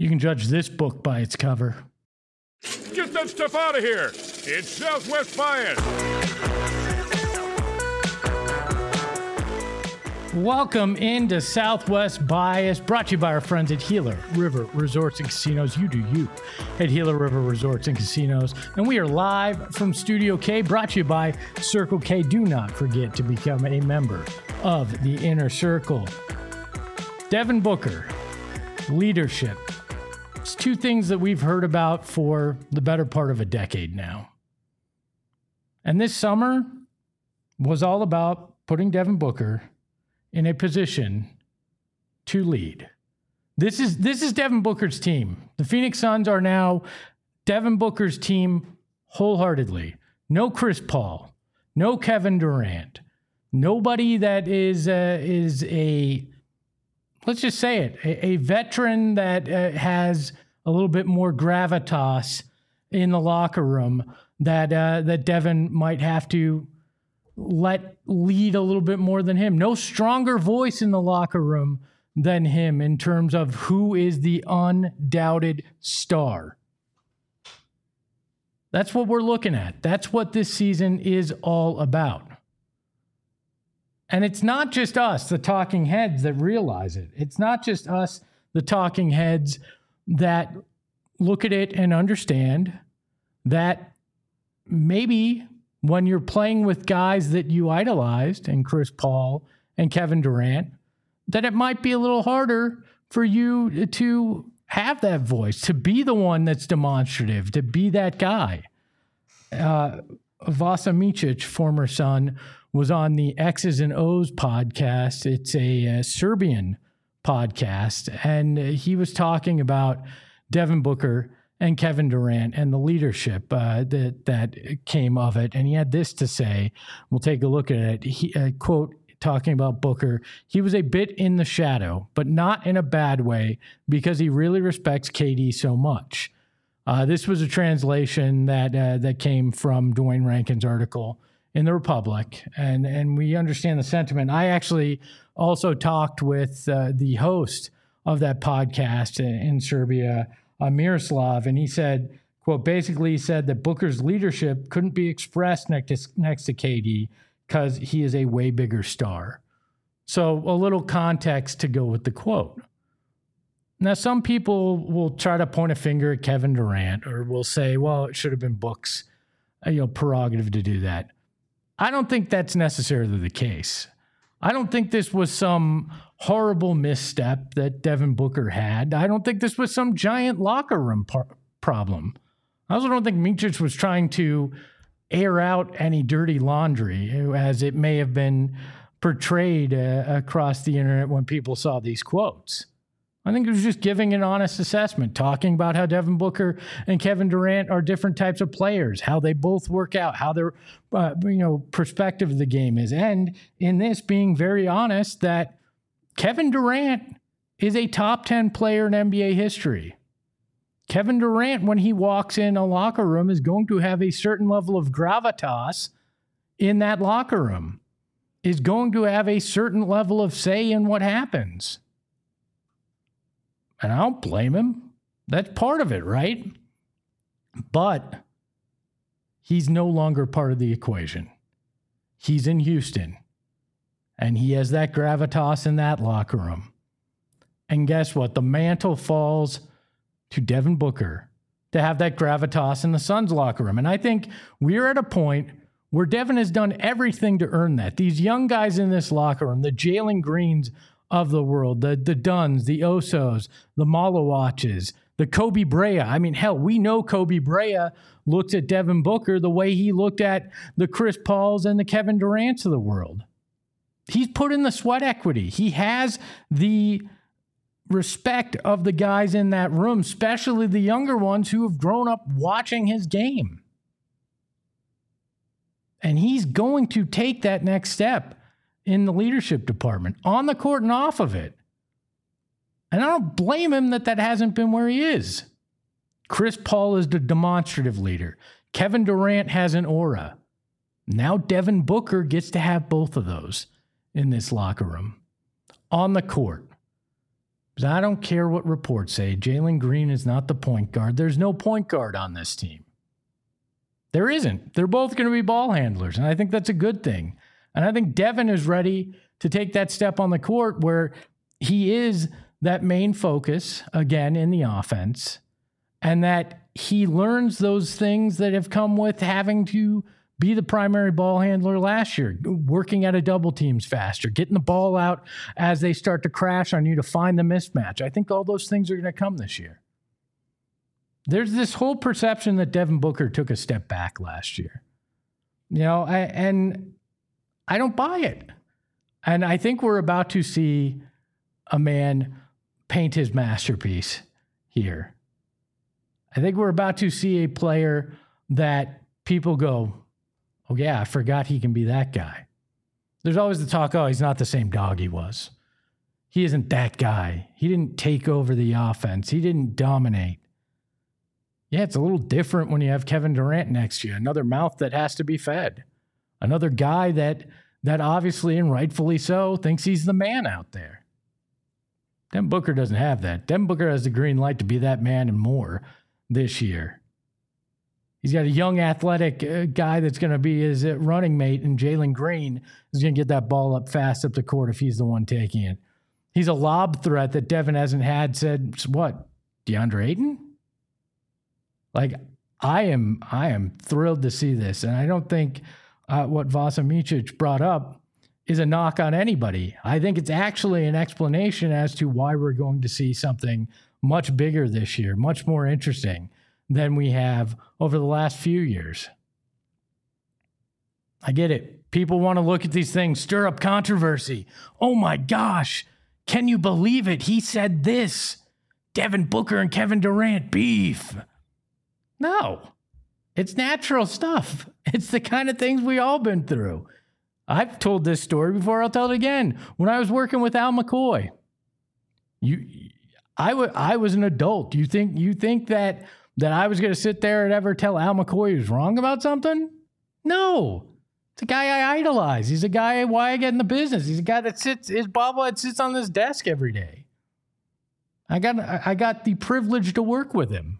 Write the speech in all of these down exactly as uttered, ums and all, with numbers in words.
You can judge this book by its cover. Get that stuff out of here. It's Southwest Bias. Welcome into Southwest Bias, brought to you by our friends at Gila River Resorts and Casinos. You do you at Gila River Resorts and Casinos. And we are live from Studio K, brought to you by Circle K. Do not forget to become a member of the Inner Circle. Devin Booker, leadership. It's two things that we've heard about for the better part of a decade now. And this summer was all about putting Devin Booker in a position to lead. This is this is Devin Booker's team. The Phoenix Suns are now Devin Booker's team wholeheartedly. No Chris Paul, no Kevin Durant, nobody that is uh, is a, let's just say it, a, a veteran that uh, has a little bit more gravitas in the locker room that uh, that Devin might have to let lead a little bit more than him. No stronger voice in the locker room than him in terms of who is the undoubted star. That's what we're looking at. That's what this season is all about. And it's not just us, the talking heads, that realize it. It's not just us, the talking heads, that look at it and understand that maybe when you're playing with guys that you idolized, and Chris Paul and Kevin Durant, that it might be a little harder for you to have that voice, to be the one that's demonstrative, to be that guy. Uh, Vasa Micic, former Sun, was on the X's and O's podcast. It's a, a Serbian podcast, and he was talking about Devin Booker and Kevin Durant and the leadership uh, that that came of it. And he had this to say. We'll take a look at it. He, uh, quote, talking about Booker, he was a bit in the shadow, but not in a bad way, because he really respects K D so much. Uh, this was a translation that uh, that came from Dwayne Rankin's article in the Republic, and and we understand the sentiment. I actually also talked with uh, the host of that podcast in, in Serbia, uh, Miroslav, and he said, quote, basically he said that Booker's leadership couldn't be expressed next to, next to K D because he is a way bigger star. So a little context to go with the quote. Now, some people will try to point a finger at Kevin Durant, or will say, well, it should have been Book's you know, prerogative to do that. I don't think that's necessarily the case. I don't think this was some horrible misstep that Devin Booker had. I don't think this was some giant locker room par- problem. I also don't think Micic was trying to air out any dirty laundry, as it may have been portrayed uh, across the internet when people saw these quotes. I think it was just giving an honest assessment, talking about how Devin Booker and Kevin Durant are different types of players, how they both work out, how their uh, you know perspective of the game is. And in this, being very honest that Kevin Durant is a top ten player in N B A history. Kevin Durant, when he walks in a locker room, is going to have a certain level of gravitas in that locker room, is going to have a certain level of say in what happens. And I don't blame him. That's part of it, right? But he's no longer part of the equation. He's in Houston, and he has that gravitas in that locker room. And guess what? The mantle falls to Devin Booker to have that gravitas in the Suns locker room. And I think we're at a point where Devin has done everything to earn that. These young guys in this locker room, the Jalen Greens of the world, the the Duns, the Osos, the Malawatches, the Kobe Brea. I mean, hell, we know Kobe Brea looks at Devin Booker the way he looked at the Chris Pauls and the Kevin Durants of the world. He's put in the sweat equity. He has the respect of the guys in that room, especially the younger ones who have grown up watching his game. And he's going to take that next step in the leadership department, on the court and off of it. And I don't blame him that that hasn't been where he is. Chris Paul is the demonstrative leader. Kevin Durant has an aura. Now Devin Booker gets to have both of those in this locker room. On the court, Because I don't care what reports say. Jalen Green is not the point guard. There's no point guard on this team. There isn't. They're both going to be ball handlers, and I think that's a good thing. And I think Devin is ready to take that step on the court where he is that main focus, again, in the offense, and that he learns those things that have come with having to be the primary ball handler last year, working out of double teams faster, getting the ball out as they start to crash on you to find the mismatch. I think all those things are going to come this year. There's this whole perception that Devin Booker took a step back last year. You know, I, and I don't buy it. And I think we're about to see a man paint his masterpiece here. I think we're about to see a player that people go, oh, yeah, I forgot he can be that guy. There's always the talk, oh, he's not the same dog he was. He isn't that guy. He didn't take over the offense. He didn't dominate. Yeah, it's a little different when you have Kevin Durant next to you, another mouth that has to be fed, another guy that that obviously and rightfully so thinks he's the man out there. Devin Booker doesn't have that. Devin Booker has the green light to be that man and more this year. He's got a young athletic uh, guy that's going to be his uh, running mate, and Jalen Green is going to get that ball up fast up the court if he's the one taking it. He's a lob threat that Devin hasn't had since, what, DeAndre Ayton? Like, I am I am thrilled to see this, and I don't think uh, what Vasa Micic brought up is a knock on anybody. I think it's actually an explanation as to why we're going to see something much bigger this year, much more interesting than we have over the last few years. I get it. People want to look at these things, stir up controversy. Oh my gosh, can you believe it? He said this. Devin Booker and Kevin Durant beef. No, it's natural stuff. It's the kind of things we all been through. I've told this story before. I'll tell it again. When I was working with Al McCoy, you, I, w- I was an adult. You think you think that that I was going to sit there and ever tell Al McCoy he was wrong about something? No. It's a guy I idolize. He's a guy why I get in the business. He's a guy that sits, his bobblehead sits on this desk every day. I got I got the privilege to work with him.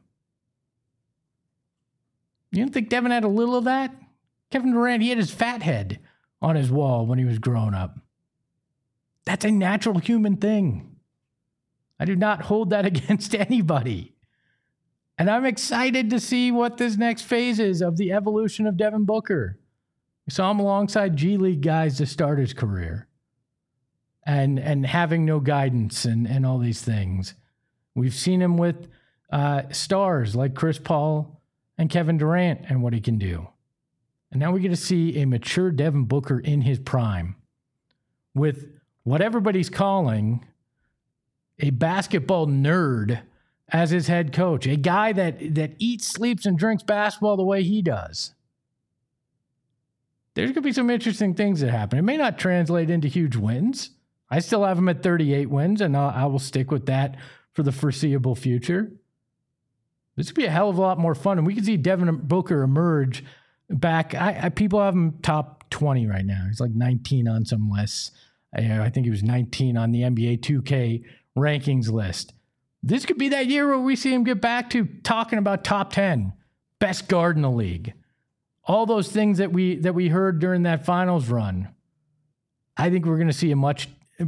You don't think Devin had a little of that? Kevin Durant, he had his fat head on his wall when he was growing up. That's a natural human thing. I do not hold that against anybody. And I'm excited to see what this next phase is of the evolution of Devin Booker. We saw him alongside G League guys to start his career. And and having no guidance and, and all these things. We've seen him with uh, stars like Chris Paul and Kevin Durant and what he can do. And now we get to see a mature Devin Booker in his prime with what everybody's calling a basketball nerd as his head coach, a guy that, that eats, sleeps, and drinks basketball the way he does. There's going to be some interesting things that happen. It may not translate into huge wins. I still have him at thirty-eight wins, and I'll, I will stick with that for the foreseeable future. This could be a hell of a lot more fun, and we can see Devin Booker emerge back. I, I people have him top twenty right now. He's like nineteen on some lists. I, I think he was nineteen on the N B A two K rankings list. This could be that year where we see him get back to talking about top ten, best guard in the league. All those things that we that we heard during that finals run. I think we're going to see a much,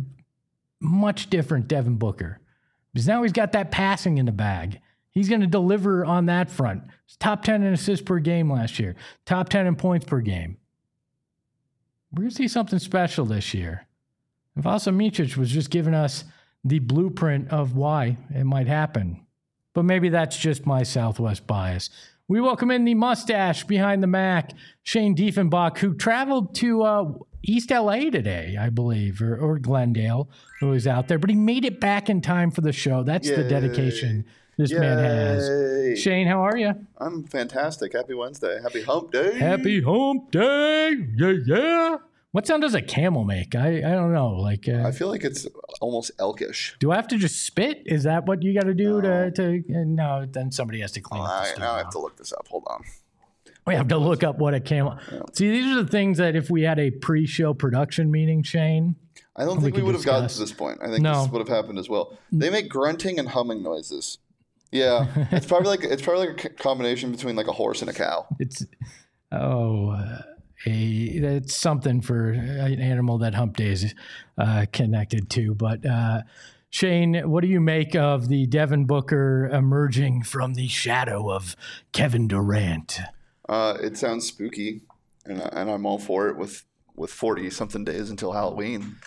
much different Devin Booker. Because now he's got that passing in the bag. He's going to deliver on that front. He's top ten in assists per game last year. Top ten in points per game. We're going to see something special this year. And Vasa Micic was just giving us the blueprint of why it might happen. But maybe that's just my Southwest bias. We welcome in the mustache behind the Mac, Shane Diefenbach, who traveled to uh, East L A today, I believe, or, or Glendale, who was out there. But he made it back in time for the show. That's Yay. The dedication this Yay. Man has. Shane, how are you? I'm fantastic. Happy Wednesday. Happy hump day. Happy hump day. Yeah, yeah. What sound does a camel make? I, I don't know. Like uh, I feel like it's almost elkish. Do I have to just spit? Is that what you got to do no. to, to uh, no, then somebody has to clean oh, up the I, stuff. Now I have to look this up. Hold on. We have to look up what a camel... Yeah. See, these are the things that if we had a pre-show production meeting, Shane... I don't we think we, could would have gotten discuss. to this point. I think No. this would have happened as well. They make grunting and humming noises. Yeah, it's probably like it's probably like a c- combination between like a horse and a cow. It's oh, uh, a it's something for an animal that Hump Day is uh, connected to. But uh, Shane, what do you make of the Devin Booker emerging from the shadow of Kevin Durant? Uh, it sounds spooky, and and I'm all for it. With with forty something days until Halloween.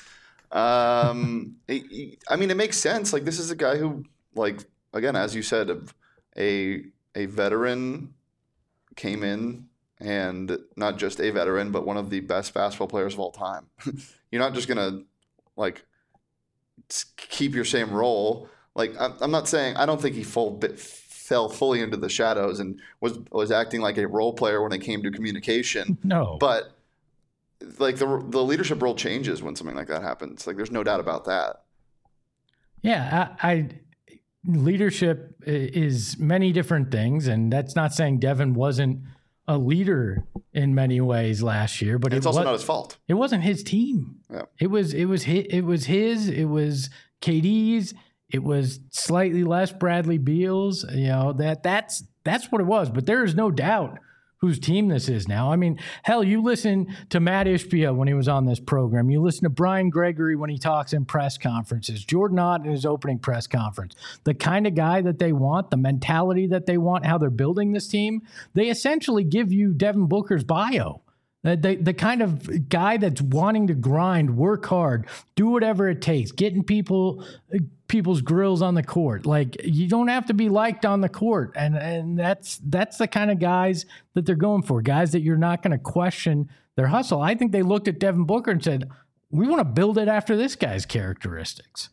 Um, it, I mean, it makes sense. Like this is a guy who, like again, as you said, a a veteran came in. And not just a veteran, but one of the best basketball players of all time. You're not just gonna like keep your same role. Like I'm, I'm not saying I don't think he full bit fell fully into the shadows and was was acting like a role player when it came to communication. No, but like the the leadership role changes when something like that happens. Like there's no doubt about that. Yeah, I, I leadership is many different things, and that's not saying Devin wasn't a leader in many ways last year, but And it's it also was, not his fault. It wasn't his team. Yeah. It was it was his, it was his. It was K D's. It was slightly less Bradley Beal's. You know that that's that's what it was. But there is no doubt whose team this is now. I mean, hell, you listen to Matt Ishbia when he was on this program. You listen to Brian Gregory when he talks in press conferences. Jordan Ott in his opening press conference. The kind of guy that they want, the mentality that they want, how they're building this team, they essentially give you Devin Booker's bio. The, the, the kind of guy that's wanting to grind, work hard, do whatever it takes, getting people people's grills on the court. Like you don't have to be liked on the court, and and that's that's the kind of guys that they're going for. Guys that you're not going to question their hustle. I think they looked at Devin Booker and said, "We want to build it after this guy's characteristics."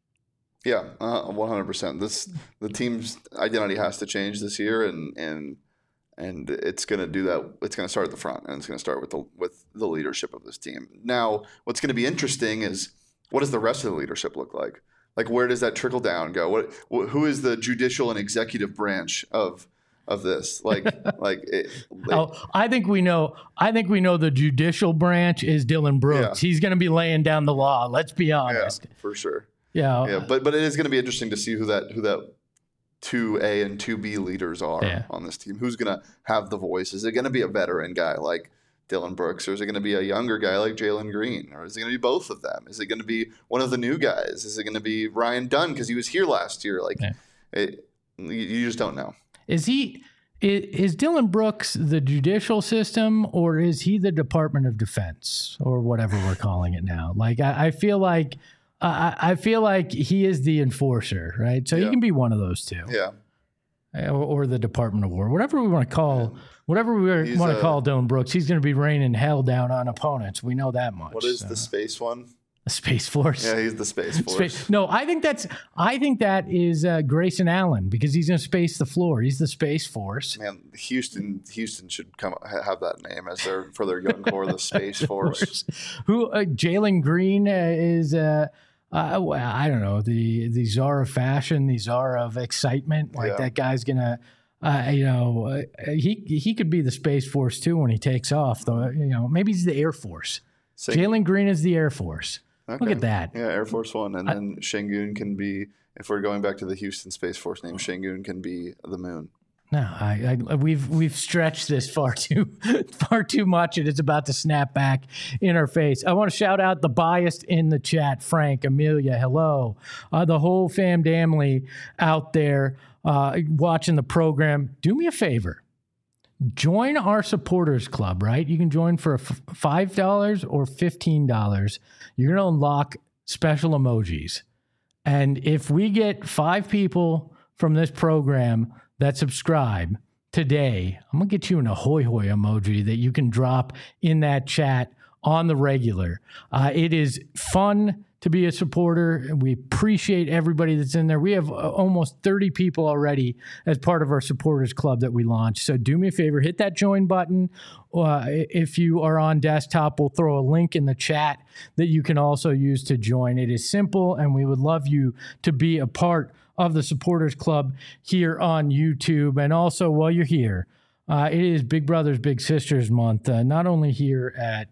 Yeah, uh, one hundred percent. This the team's identity has to change this year, and and. And it's going to do that. It's going to start at the front, and it's going to start with the with the leadership of this team. Now, what's going to be interesting is what does the rest of the leadership look like? Like, where does that trickle down go? What, wh- who is the judicial and executive branch of of this? Like, like, it, like Oh, I think we know. I think we know the judicial branch is Dylan Brooks. Yeah. He's going to be laying down the law. Let's be yeah, honest. for sure. Yeah, Yeah, but but it is going to be interesting to see who that who that two A and two B leaders are Yeah. on this team. Who's going to have the voice? Is it going to be a veteran guy like Dylan Brooks, or is it going to be a younger guy like Jalen Green, or is it going to be both of them? Is it going to be one of the new guys? Is it going to be Ryan Dunn because he was here last year? Like, Yeah. it, you, you just don't know. Is he is, is Dylan Brooks the judicial system, or is he the Department of Defense, or whatever we're calling it now? Like I, I feel like I, I feel like he is the enforcer, right? So Yeah. he can be one of those two, Yeah, or, or the Department of War, whatever we want to call, whatever we He's want to a- call Dylan Brooks. He's going to be raining hell down on opponents. We know that much. what is so. the space one? The Space Force? Yeah, he's the space force. Space, no, I think that's I think that is uh, Grayson Allen because he's going to space the floor. He's the Space Force. Man, Houston, Houston should come ha- have that name as their for their young core, the Space Force. Who uh, Jalen Green uh, is? Uh, uh, well, I don't know the the czar of fashion, the czar of excitement. Like Yeah. that guy's gonna, uh, you know, uh, he he could be the Space Force too when he takes off. Though, you know, maybe he's the Air Force. Say- Jalen Green is the Air Force. Look Okay. at that. Yeah, Air Force One, and then Shangoon can be. If we're going back to the Houston Space Force name, Shangoon can be the moon. No, I, I we've we've stretched this far too far too much, and it's about to snap back in our face. I want to shout out the biased in the chat, Frank, Amelia, hello, uh, the whole fam family out there uh, watching the program. Do me a favor, join our supporters club. Right, you can join for f- five dollars or fifteen dollars. You're gonna unlock special emojis, and if we get five people from this program that subscribe today, I'm going to get you an ahoy hoy emoji that you can drop in that chat on the regular. Uh, it is fun to be a supporter, and we appreciate everybody that's in there. We have uh, almost thirty people already as part of our supporters club that we launched. So do me a favor, hit that join button. Uh, if you are on desktop, we'll throw a link in the chat that you can also use to join. It is simple, and we would love you to be a part of the supporters club here on YouTube. And also, while you're here, uh, it is Big Brothers Big Sisters month, uh, not only here at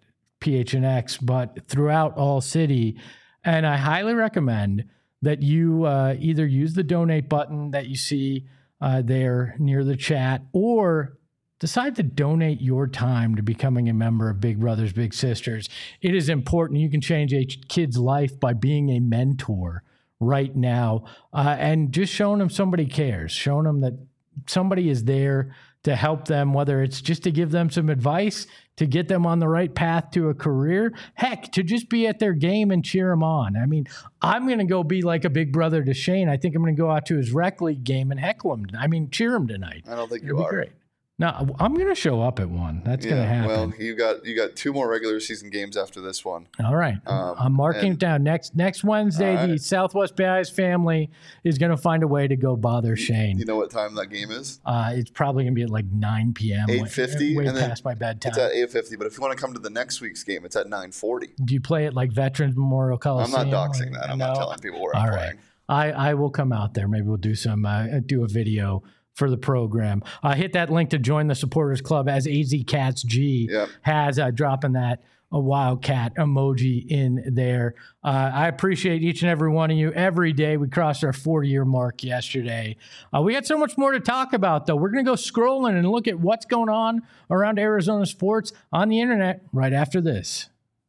P H N X, but throughout all city. And I highly recommend that you uh, either use the donate button that you see uh, there near the chat, or decide to donate your time to becoming a member of Big Brothers Big Sisters. It is important. You can change a kid's life by being a mentor right now, uh, and just showing them somebody cares, showing them that somebody is there to help them, whether it's just to give them some advice, to get them on the right path to a career, heck, to just be at their game and cheer them on. I mean, I'm going to go be like a big brother to Shane. I think I'm going to go out to his rec league game and heckle him. I mean, cheer him tonight. I don't think It'll you be are. Great. No, I'm going to show up at one. That's yeah, going to happen. Well, you got you got two more regular season games after this one. All right. Um, I'm marking and, it down. Next next Wednesday, right. the Southwest Bay Eyes family is going to find a way to go bother Shane. You know what time that game is? Uh, it's probably going to be at like nine p.m. eight fifty. Way, way and then past my bedtime. It's at eight fifty, but if you want to come to the next week's game, it's at nine forty. Do you play at like Veterans Memorial I'm Coliseum? not doxing that. I'm no? not telling people where All I'm right. playing. I, I will come out there. Maybe we'll do some uh, do a video for the program. Uh, hit that link to join the supporters club, as A Z Cats G Yep. has, uh, dropping that a wildcat emoji in there. Uh, I appreciate each and every one of you every day. We crossed our forty-year mark yesterday. Uh, we got so much more to talk about, though. We're going to go scrolling and look at what's going on around Arizona sports on the internet right after this.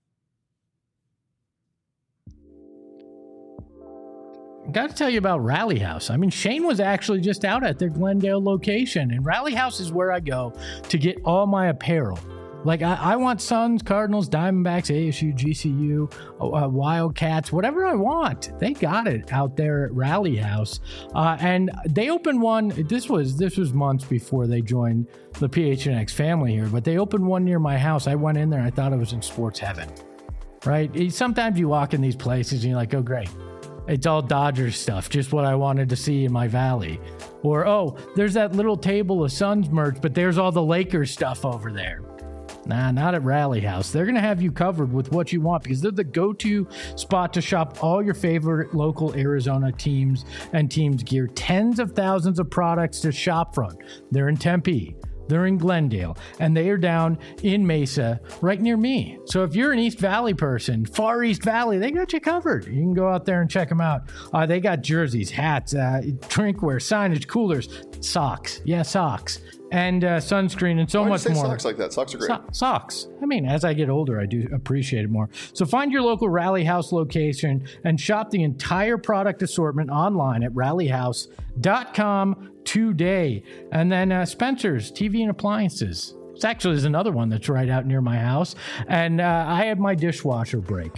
Got to tell you about Rally House. I mean, Shane was actually just out at their Glendale location, and Rally House is where I go to get all my apparel. Like, I, I want Suns, Cardinals, Diamondbacks, A S U, G C U, uh, Wildcats, whatever I want. They got it out there at Rally House. Uh, and they opened one, this was this was months before they joined the P H N X family here, but they opened one near my house. I went in there, I thought I was in sports heaven, right? Sometimes you walk in these places and you're like, oh, great. It's all Dodgers stuff, just what I wanted to see in my valley. Or, oh, there's that little table of Suns merch, but there's all the Lakers stuff over there. Nah, not at Rally House. They're going to have you covered with what you want, because they're the go-to spot to shop all your favorite local Arizona teams and teams gear. Tens of thousands of products to shop from. They're in Tempe. They're in Glendale, and they are down in Mesa, right near me. So if you're an East Valley person, Far East Valley, they got you covered. You can go out there and check them out. Uh, they got jerseys, hats, uh, drinkware, signage, coolers, socks. Yeah, socks. And uh, sunscreen and so Why much do you say more. Socks like that. Socks are great. So- socks. I mean, as I get older, I do appreciate it more. So find your local Rally House location and shop the entire product assortment online at rally house dot com today. And then uh, Spencer's T V and Appliances. This actually is another one that's right out near my house. And uh, I had my dishwasher break.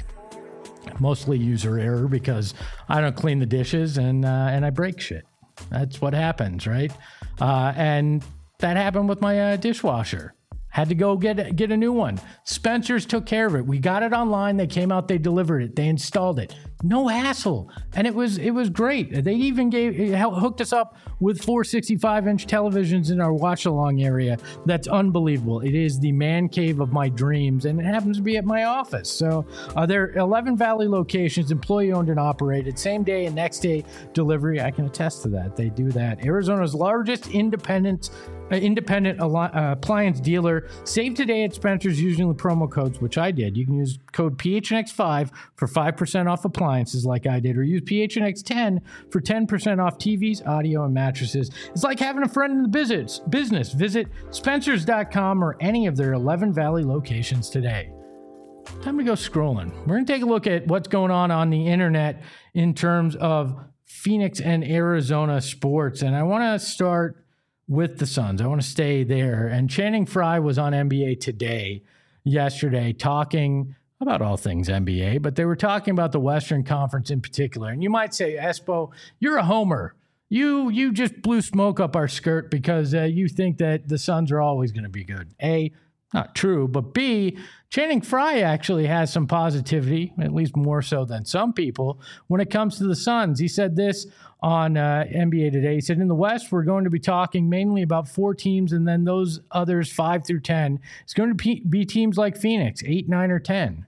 Mostly user error, because I don't clean the dishes and uh, and I break shit. That's what happens, right? Uh, and that happened with my uh, dishwasher. Had to go get get a new one. Spencer's took care of it. We got it online. They came out. They delivered it. They installed it. No hassle, and it was it was great. They even gave it hooked us up with four sixty-five inch televisions in our watch along area. That's unbelievable. It is the man cave of my dreams, and it happens to be at my office. So uh, there are eleven Valley locations, employee owned and operated, same day and next day delivery. I can attest to that. They do that. Arizona's largest independent. Uh, independent uh, appliance dealer. Save today at Spencer's using the promo codes, which I did. You can use code P H N X five for five percent off appliances like I did, or use P H N X ten for ten percent off T Vs, audio, and mattresses. It's like having a friend in the business. business. Visit spencers dot com or any of their eleven Valley locations today. Time to go scrolling. We're going to take a look at what's going on on the internet in terms of Phoenix and Arizona sports. And I want to start with the Suns. I want to stay there. And Channing Frye was on N B A Today yesterday talking about all things N B A, but they were talking about the Western Conference in particular. And you might say, Espo, you're a homer. You you just blew smoke up our skirt because uh, you think that the Suns are always going to be good. A, not true, but B, Channing Frye actually has some positivity, at least more so than some people, when it comes to the Suns. He said this on uh, N B A Today. He said, in the West, we're going to be talking mainly about four teams, and then those others, five through ten. It's going to be teams like Phoenix, eight, nine, or ten.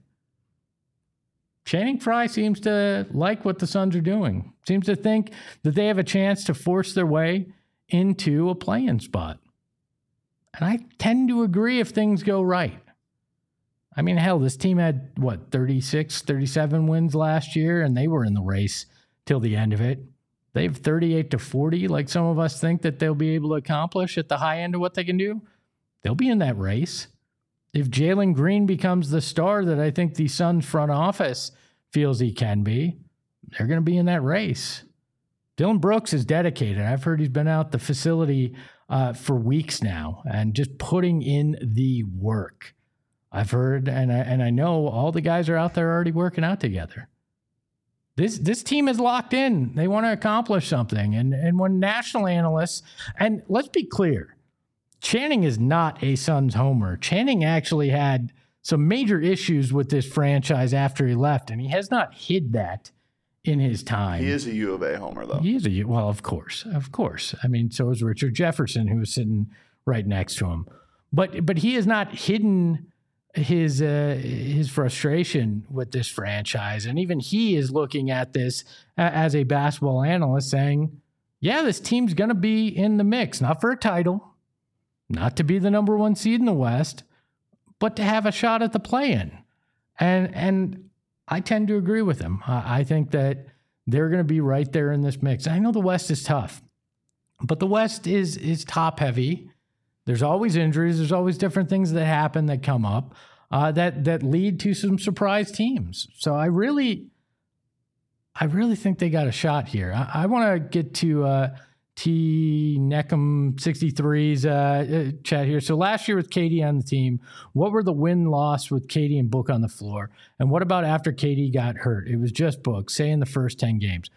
Channing Frye seems to like what the Suns are doing. Seems to think that they have a chance to force their way into a play-in spot. And I tend to agree if things go right. I mean, hell, this team had, what, thirty-six, thirty-seven wins last year, and they were in the race till the end of it. They have thirty-eight to forty, like some of us think that they'll be able to accomplish at the high end of what they can do. They'll be in that race. If Jalen Green becomes the star that I think the Suns front office feels he can be, they're going to be in that race. Dylan Brooks is dedicated. I've heard he's been out the facility uh, for weeks now and just putting in the work. I've heard, and I, and I know all the guys are out there already working out together. This this team is locked in. They want to accomplish something. And, and when national analysts, and let's be clear, Channing is not a Suns homer. Channing actually had some major issues with this franchise after he left, and he has not hid that in his time. He is a U of A homer, though. He is a U, well, of course, of course. I mean, so is Richard Jefferson, who was sitting right next to him. But but he has not hidden his uh, his frustration with this franchise, and even he is looking at this as a basketball analyst, saying, "Yeah, this team's going to be in the mix, not for a title, not to be the number one seed in the West, but to have a shot at the play-in." And and I tend to agree with him. I, I think that they're going to be right there in this mix. I know the West is tough, but the West is is top heavy. There's always injuries. There's always different things that happen that come up uh, that that lead to some surprise teams. So I really, I really think they got a shot here. I, I want to get to uh, T Neckham sixty-three's uh, chat here. So last year with K D on the team, what were the win-loss with K D and Book on the floor? And what about after K D got hurt? It was just Book, say in the first ten games.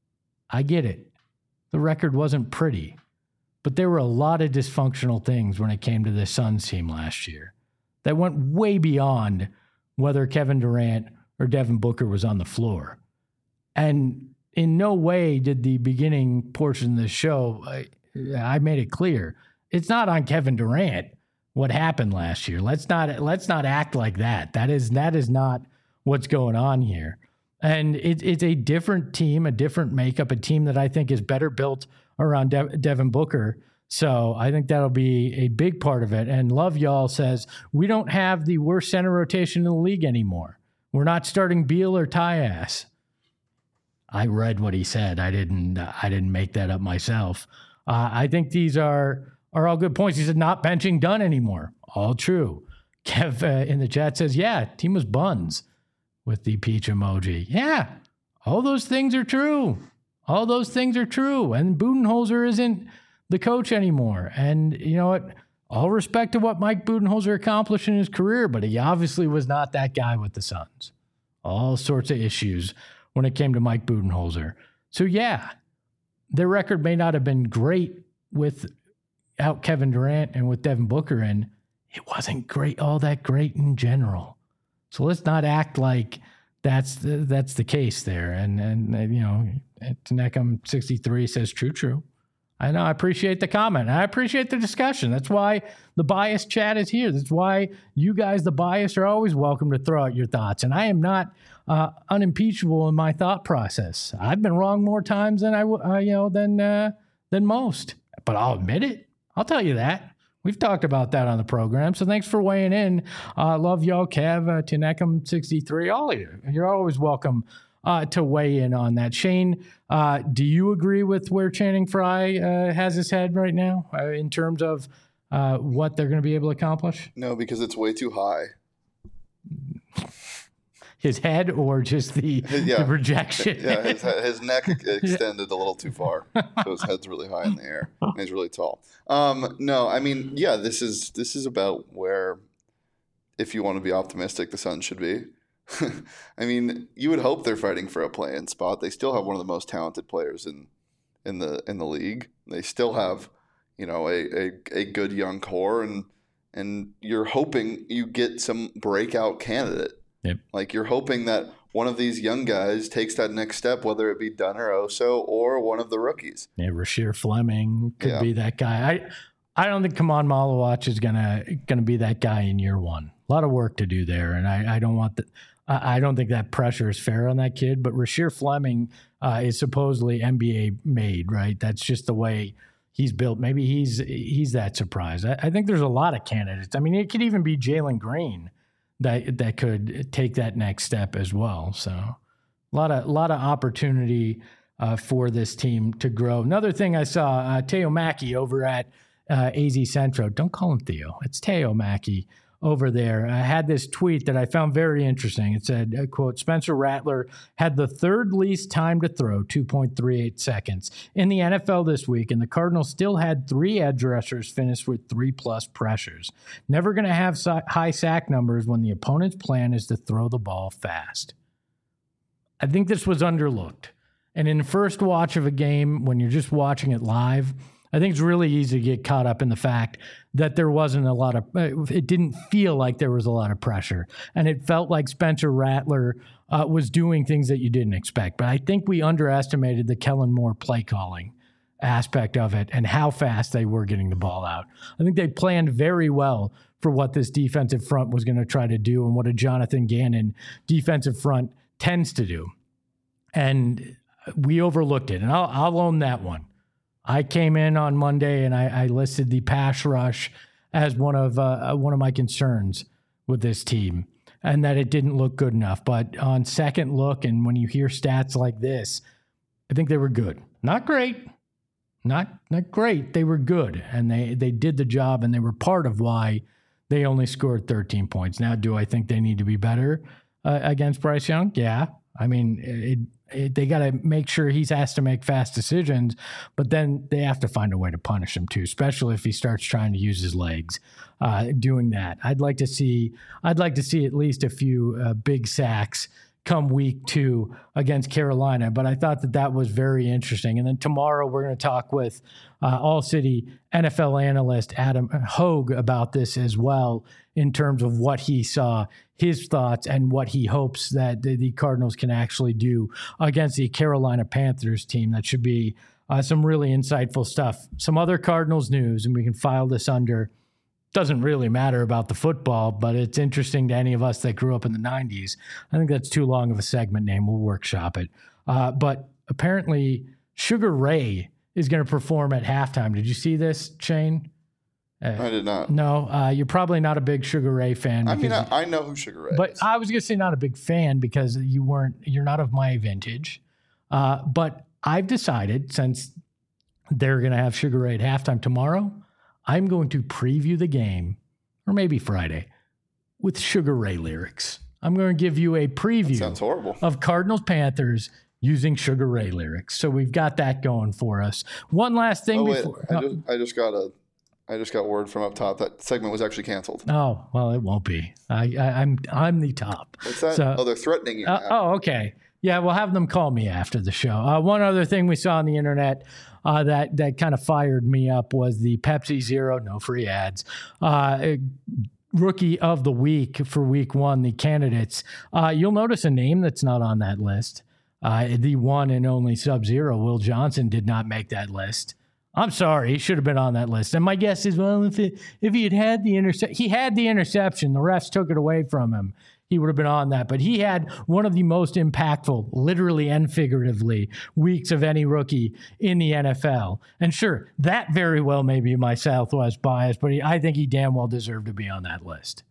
I get it. The record wasn't pretty. But there were a lot of dysfunctional things when it came to the Suns team last year that went way beyond whether Kevin Durant or Devin Booker was on the floor. And in no way did the beginning portion of the show, I, I made it clear, it's not on Kevin Durant what happened last year. Let's not let's not act like that. That is that is not what's going on here. And it, it's a different team, a different makeup, a team that I think is better built around De- Devin Booker. So I think that'll be a big part of it. And Love Y'all says, we don't have the worst center rotation in the league anymore. We're not starting Beal or Tyus. I read what he said. I didn't I didn't make that up myself. Uh, I think these are, are all good points. He said, not benching Dunn anymore. All true. Kev uh, in the chat says, yeah, team was buns with the peach emoji. Yeah, all those things are true. All those things are true. And Budenholzer isn't the coach anymore. And you know what? All respect to what Mike Budenholzer accomplished in his career, but he obviously was not that guy with the Suns. All sorts of issues when it came to Mike Budenholzer. So yeah, their record may not have been great without Kevin Durant and with Devin Booker, and it wasn't great, all that great in general. So let's not act like that's the, that's the case there. And, and, and you know, Neckham sixty-three says, true, true. I know. I appreciate the comment. I appreciate the discussion. That's why the bias chat is here. That's why you guys, the bias, are always welcome to throw out your thoughts. And I am not uh, unimpeachable in my thought process. I've been wrong more times than I, uh, you know, than uh, than most. But I'll admit it. I'll tell you that. We've talked about that on the program. So thanks for weighing in. Uh, love y'all, Kev, uh, Tinecum sixty-three. All of you. You're always welcome uh, to weigh in on that. Shane, uh, do you agree with where Channing Frye uh, has his head right now uh, in terms of uh, what they're going to be able to accomplish? No, because it's way too high. His head or just the, yeah. the projection? Yeah, his, his neck extended a little too far. So his head's really high in the air. And he's really tall. Um, no, I mean, yeah, this is this is about where, if you want to be optimistic, the Suns should be. I mean, you would hope they're fighting for a play-in spot. They still have one of the most talented players in in the in the league. They still have, you know, a, a, a good young core, and and you're hoping you get some breakout candidate. Yep. Like you're hoping that one of these young guys takes that next step, whether it be Dunn or Oso or one of the rookies. Yeah, Rasheer Fleming could yeah. be that guy. I I don't think Kaman Malawach is gonna gonna be that guy in year one. A lot of work to do there, and I, I don't want the I, I don't think that pressure is fair on that kid. But Rasheer Fleming uh, is supposedly N B A made, right? That's just the way he's built. Maybe he's he's that surprise. I, I think there's a lot of candidates. I mean, it could even be Jalen Green that that could take that next step as well. So a lot of a lot of opportunity uh, for this team to grow. Another thing I saw, uh, Teo Mackey over at uh, A Z Centro. Don't call him Theo. It's Teo Mackey over there. I had this tweet that I found very interesting. It said, uh, quote, Spencer Rattler had the third least time to throw, two point three eight seconds, in the N F L this week, and the Cardinals still had three edge rushers finish with three-plus pressures. Never going to have si- high sack numbers when the opponent's plan is to throw the ball fast. I think this was underlooked. And in the first watch of a game, when you're just watching it live, I think it's really easy to get caught up in the fact that there wasn't a lot of, it didn't feel like there was a lot of pressure. And it felt like Spencer Rattler uh, was doing things that you didn't expect. But I think we underestimated the Kellen Moore play calling aspect of it and how fast they were getting the ball out. I think they planned very well for what this defensive front was going to try to do and what a Jonathan Gannon defensive front tends to do. And we overlooked it. And I'll, I'll own that one. I came in on Monday and I, I listed the pass rush as one of uh, one of my concerns with this team, and that it didn't look good enough. But on second look, and when you hear stats like this, I think they were good. Not great, not not great. They were good, and they they did the job, and they were part of why they only scored thirteen points. Now, do I think they need to be better uh, against Bryce Young? Yeah, I mean it. It, they got to make sure he has to make fast decisions, but then they have to find a way to punish him too, especially if he starts trying to use his legs uh, doing that. I'd like to see, I'd like to see at least a few uh, big sacks come week two against Carolina, but I thought that that was very interesting. And then tomorrow we're going to talk with uh, All-City N F L analyst Adam Hogue about this as well, in terms of what he saw, his thoughts, and what he hopes that the, the Cardinals can actually do against the Carolina Panthers team. That should be uh, some really insightful stuff. Some other Cardinals news, and we can file this under, doesn't really matter about the football, but it's interesting to any of us that grew up in the nineties. I think that's too long of a segment name. We'll workshop it. Uh, but apparently Sugar Ray is going to perform at halftime. Did you see this, Shane? Uh, I did not. No, uh, you're probably not a big Sugar Ray fan. I mean, I, I know who Sugar Ray but is. But I was going to say not a big fan because you weren't, you're not of my vintage. Uh, but I've decided, since they're going to have Sugar Ray at halftime tomorrow, I'm going to preview the game, or maybe Friday, with Sugar Ray lyrics. I'm going to give you a preview That sounds horrible. of Cardinals Panthers using Sugar Ray lyrics. So we've got that going for us. One last thing oh, wait, before. I just, I just got a. I just got word from up top that segment was actually canceled. Oh, well, it won't be. I, I, I'm I'm the top. What's that? So, oh, they're threatening you. uh, now. oh, okay. Yeah, we'll have them call me after the show. Uh, one other thing we saw on the internet uh, that that kind of fired me up was the Pepsi Zero, no free ads, uh, Rookie of the Week for Week One. The candidates. Uh, you'll notice a name that's not on that list. Uh, the one and only Sub-Zero, Will Johnson, did not make that list. I'm sorry, he should have been on that list. And my guess is, well, if it, if he had had the interception, he had the interception. The refs took it away from him. He would have been on that. But he had one of the most impactful, literally and figuratively, weeks of any rookie in the N F L. And sure, that very well may be my Southwest bias, but he, I think he damn well deserved to be on that list.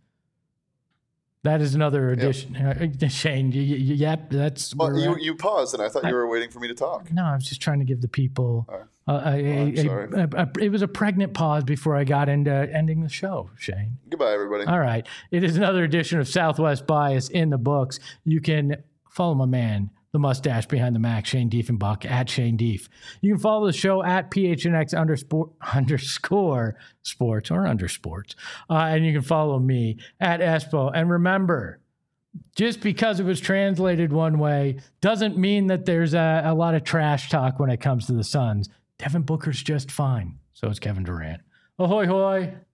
That is another addition. Yep. Uh, Shane, you, you, yep, that's. Well, you, you paused, and I thought I, you were waiting for me to talk. No, I was just trying to give the people. Right. Uh, a, a, a, a, a, it was a pregnant pause before I got into ending the show, Shane. Goodbye, everybody. All right. It is another edition of Southwest Bias in the books. You can follow my man, the mustache behind the Mac, Shane Diefenbach, at Shane Dief. You can follow the show at P H N X underscore, underscore sports or under sports. Uh, and you can follow me at Espo. And remember, just because it was translated one way doesn't mean that there's a, a lot of trash talk when it comes to the Suns. Devin Booker's just fine. So is Kevin Durant. Ahoy, hoy.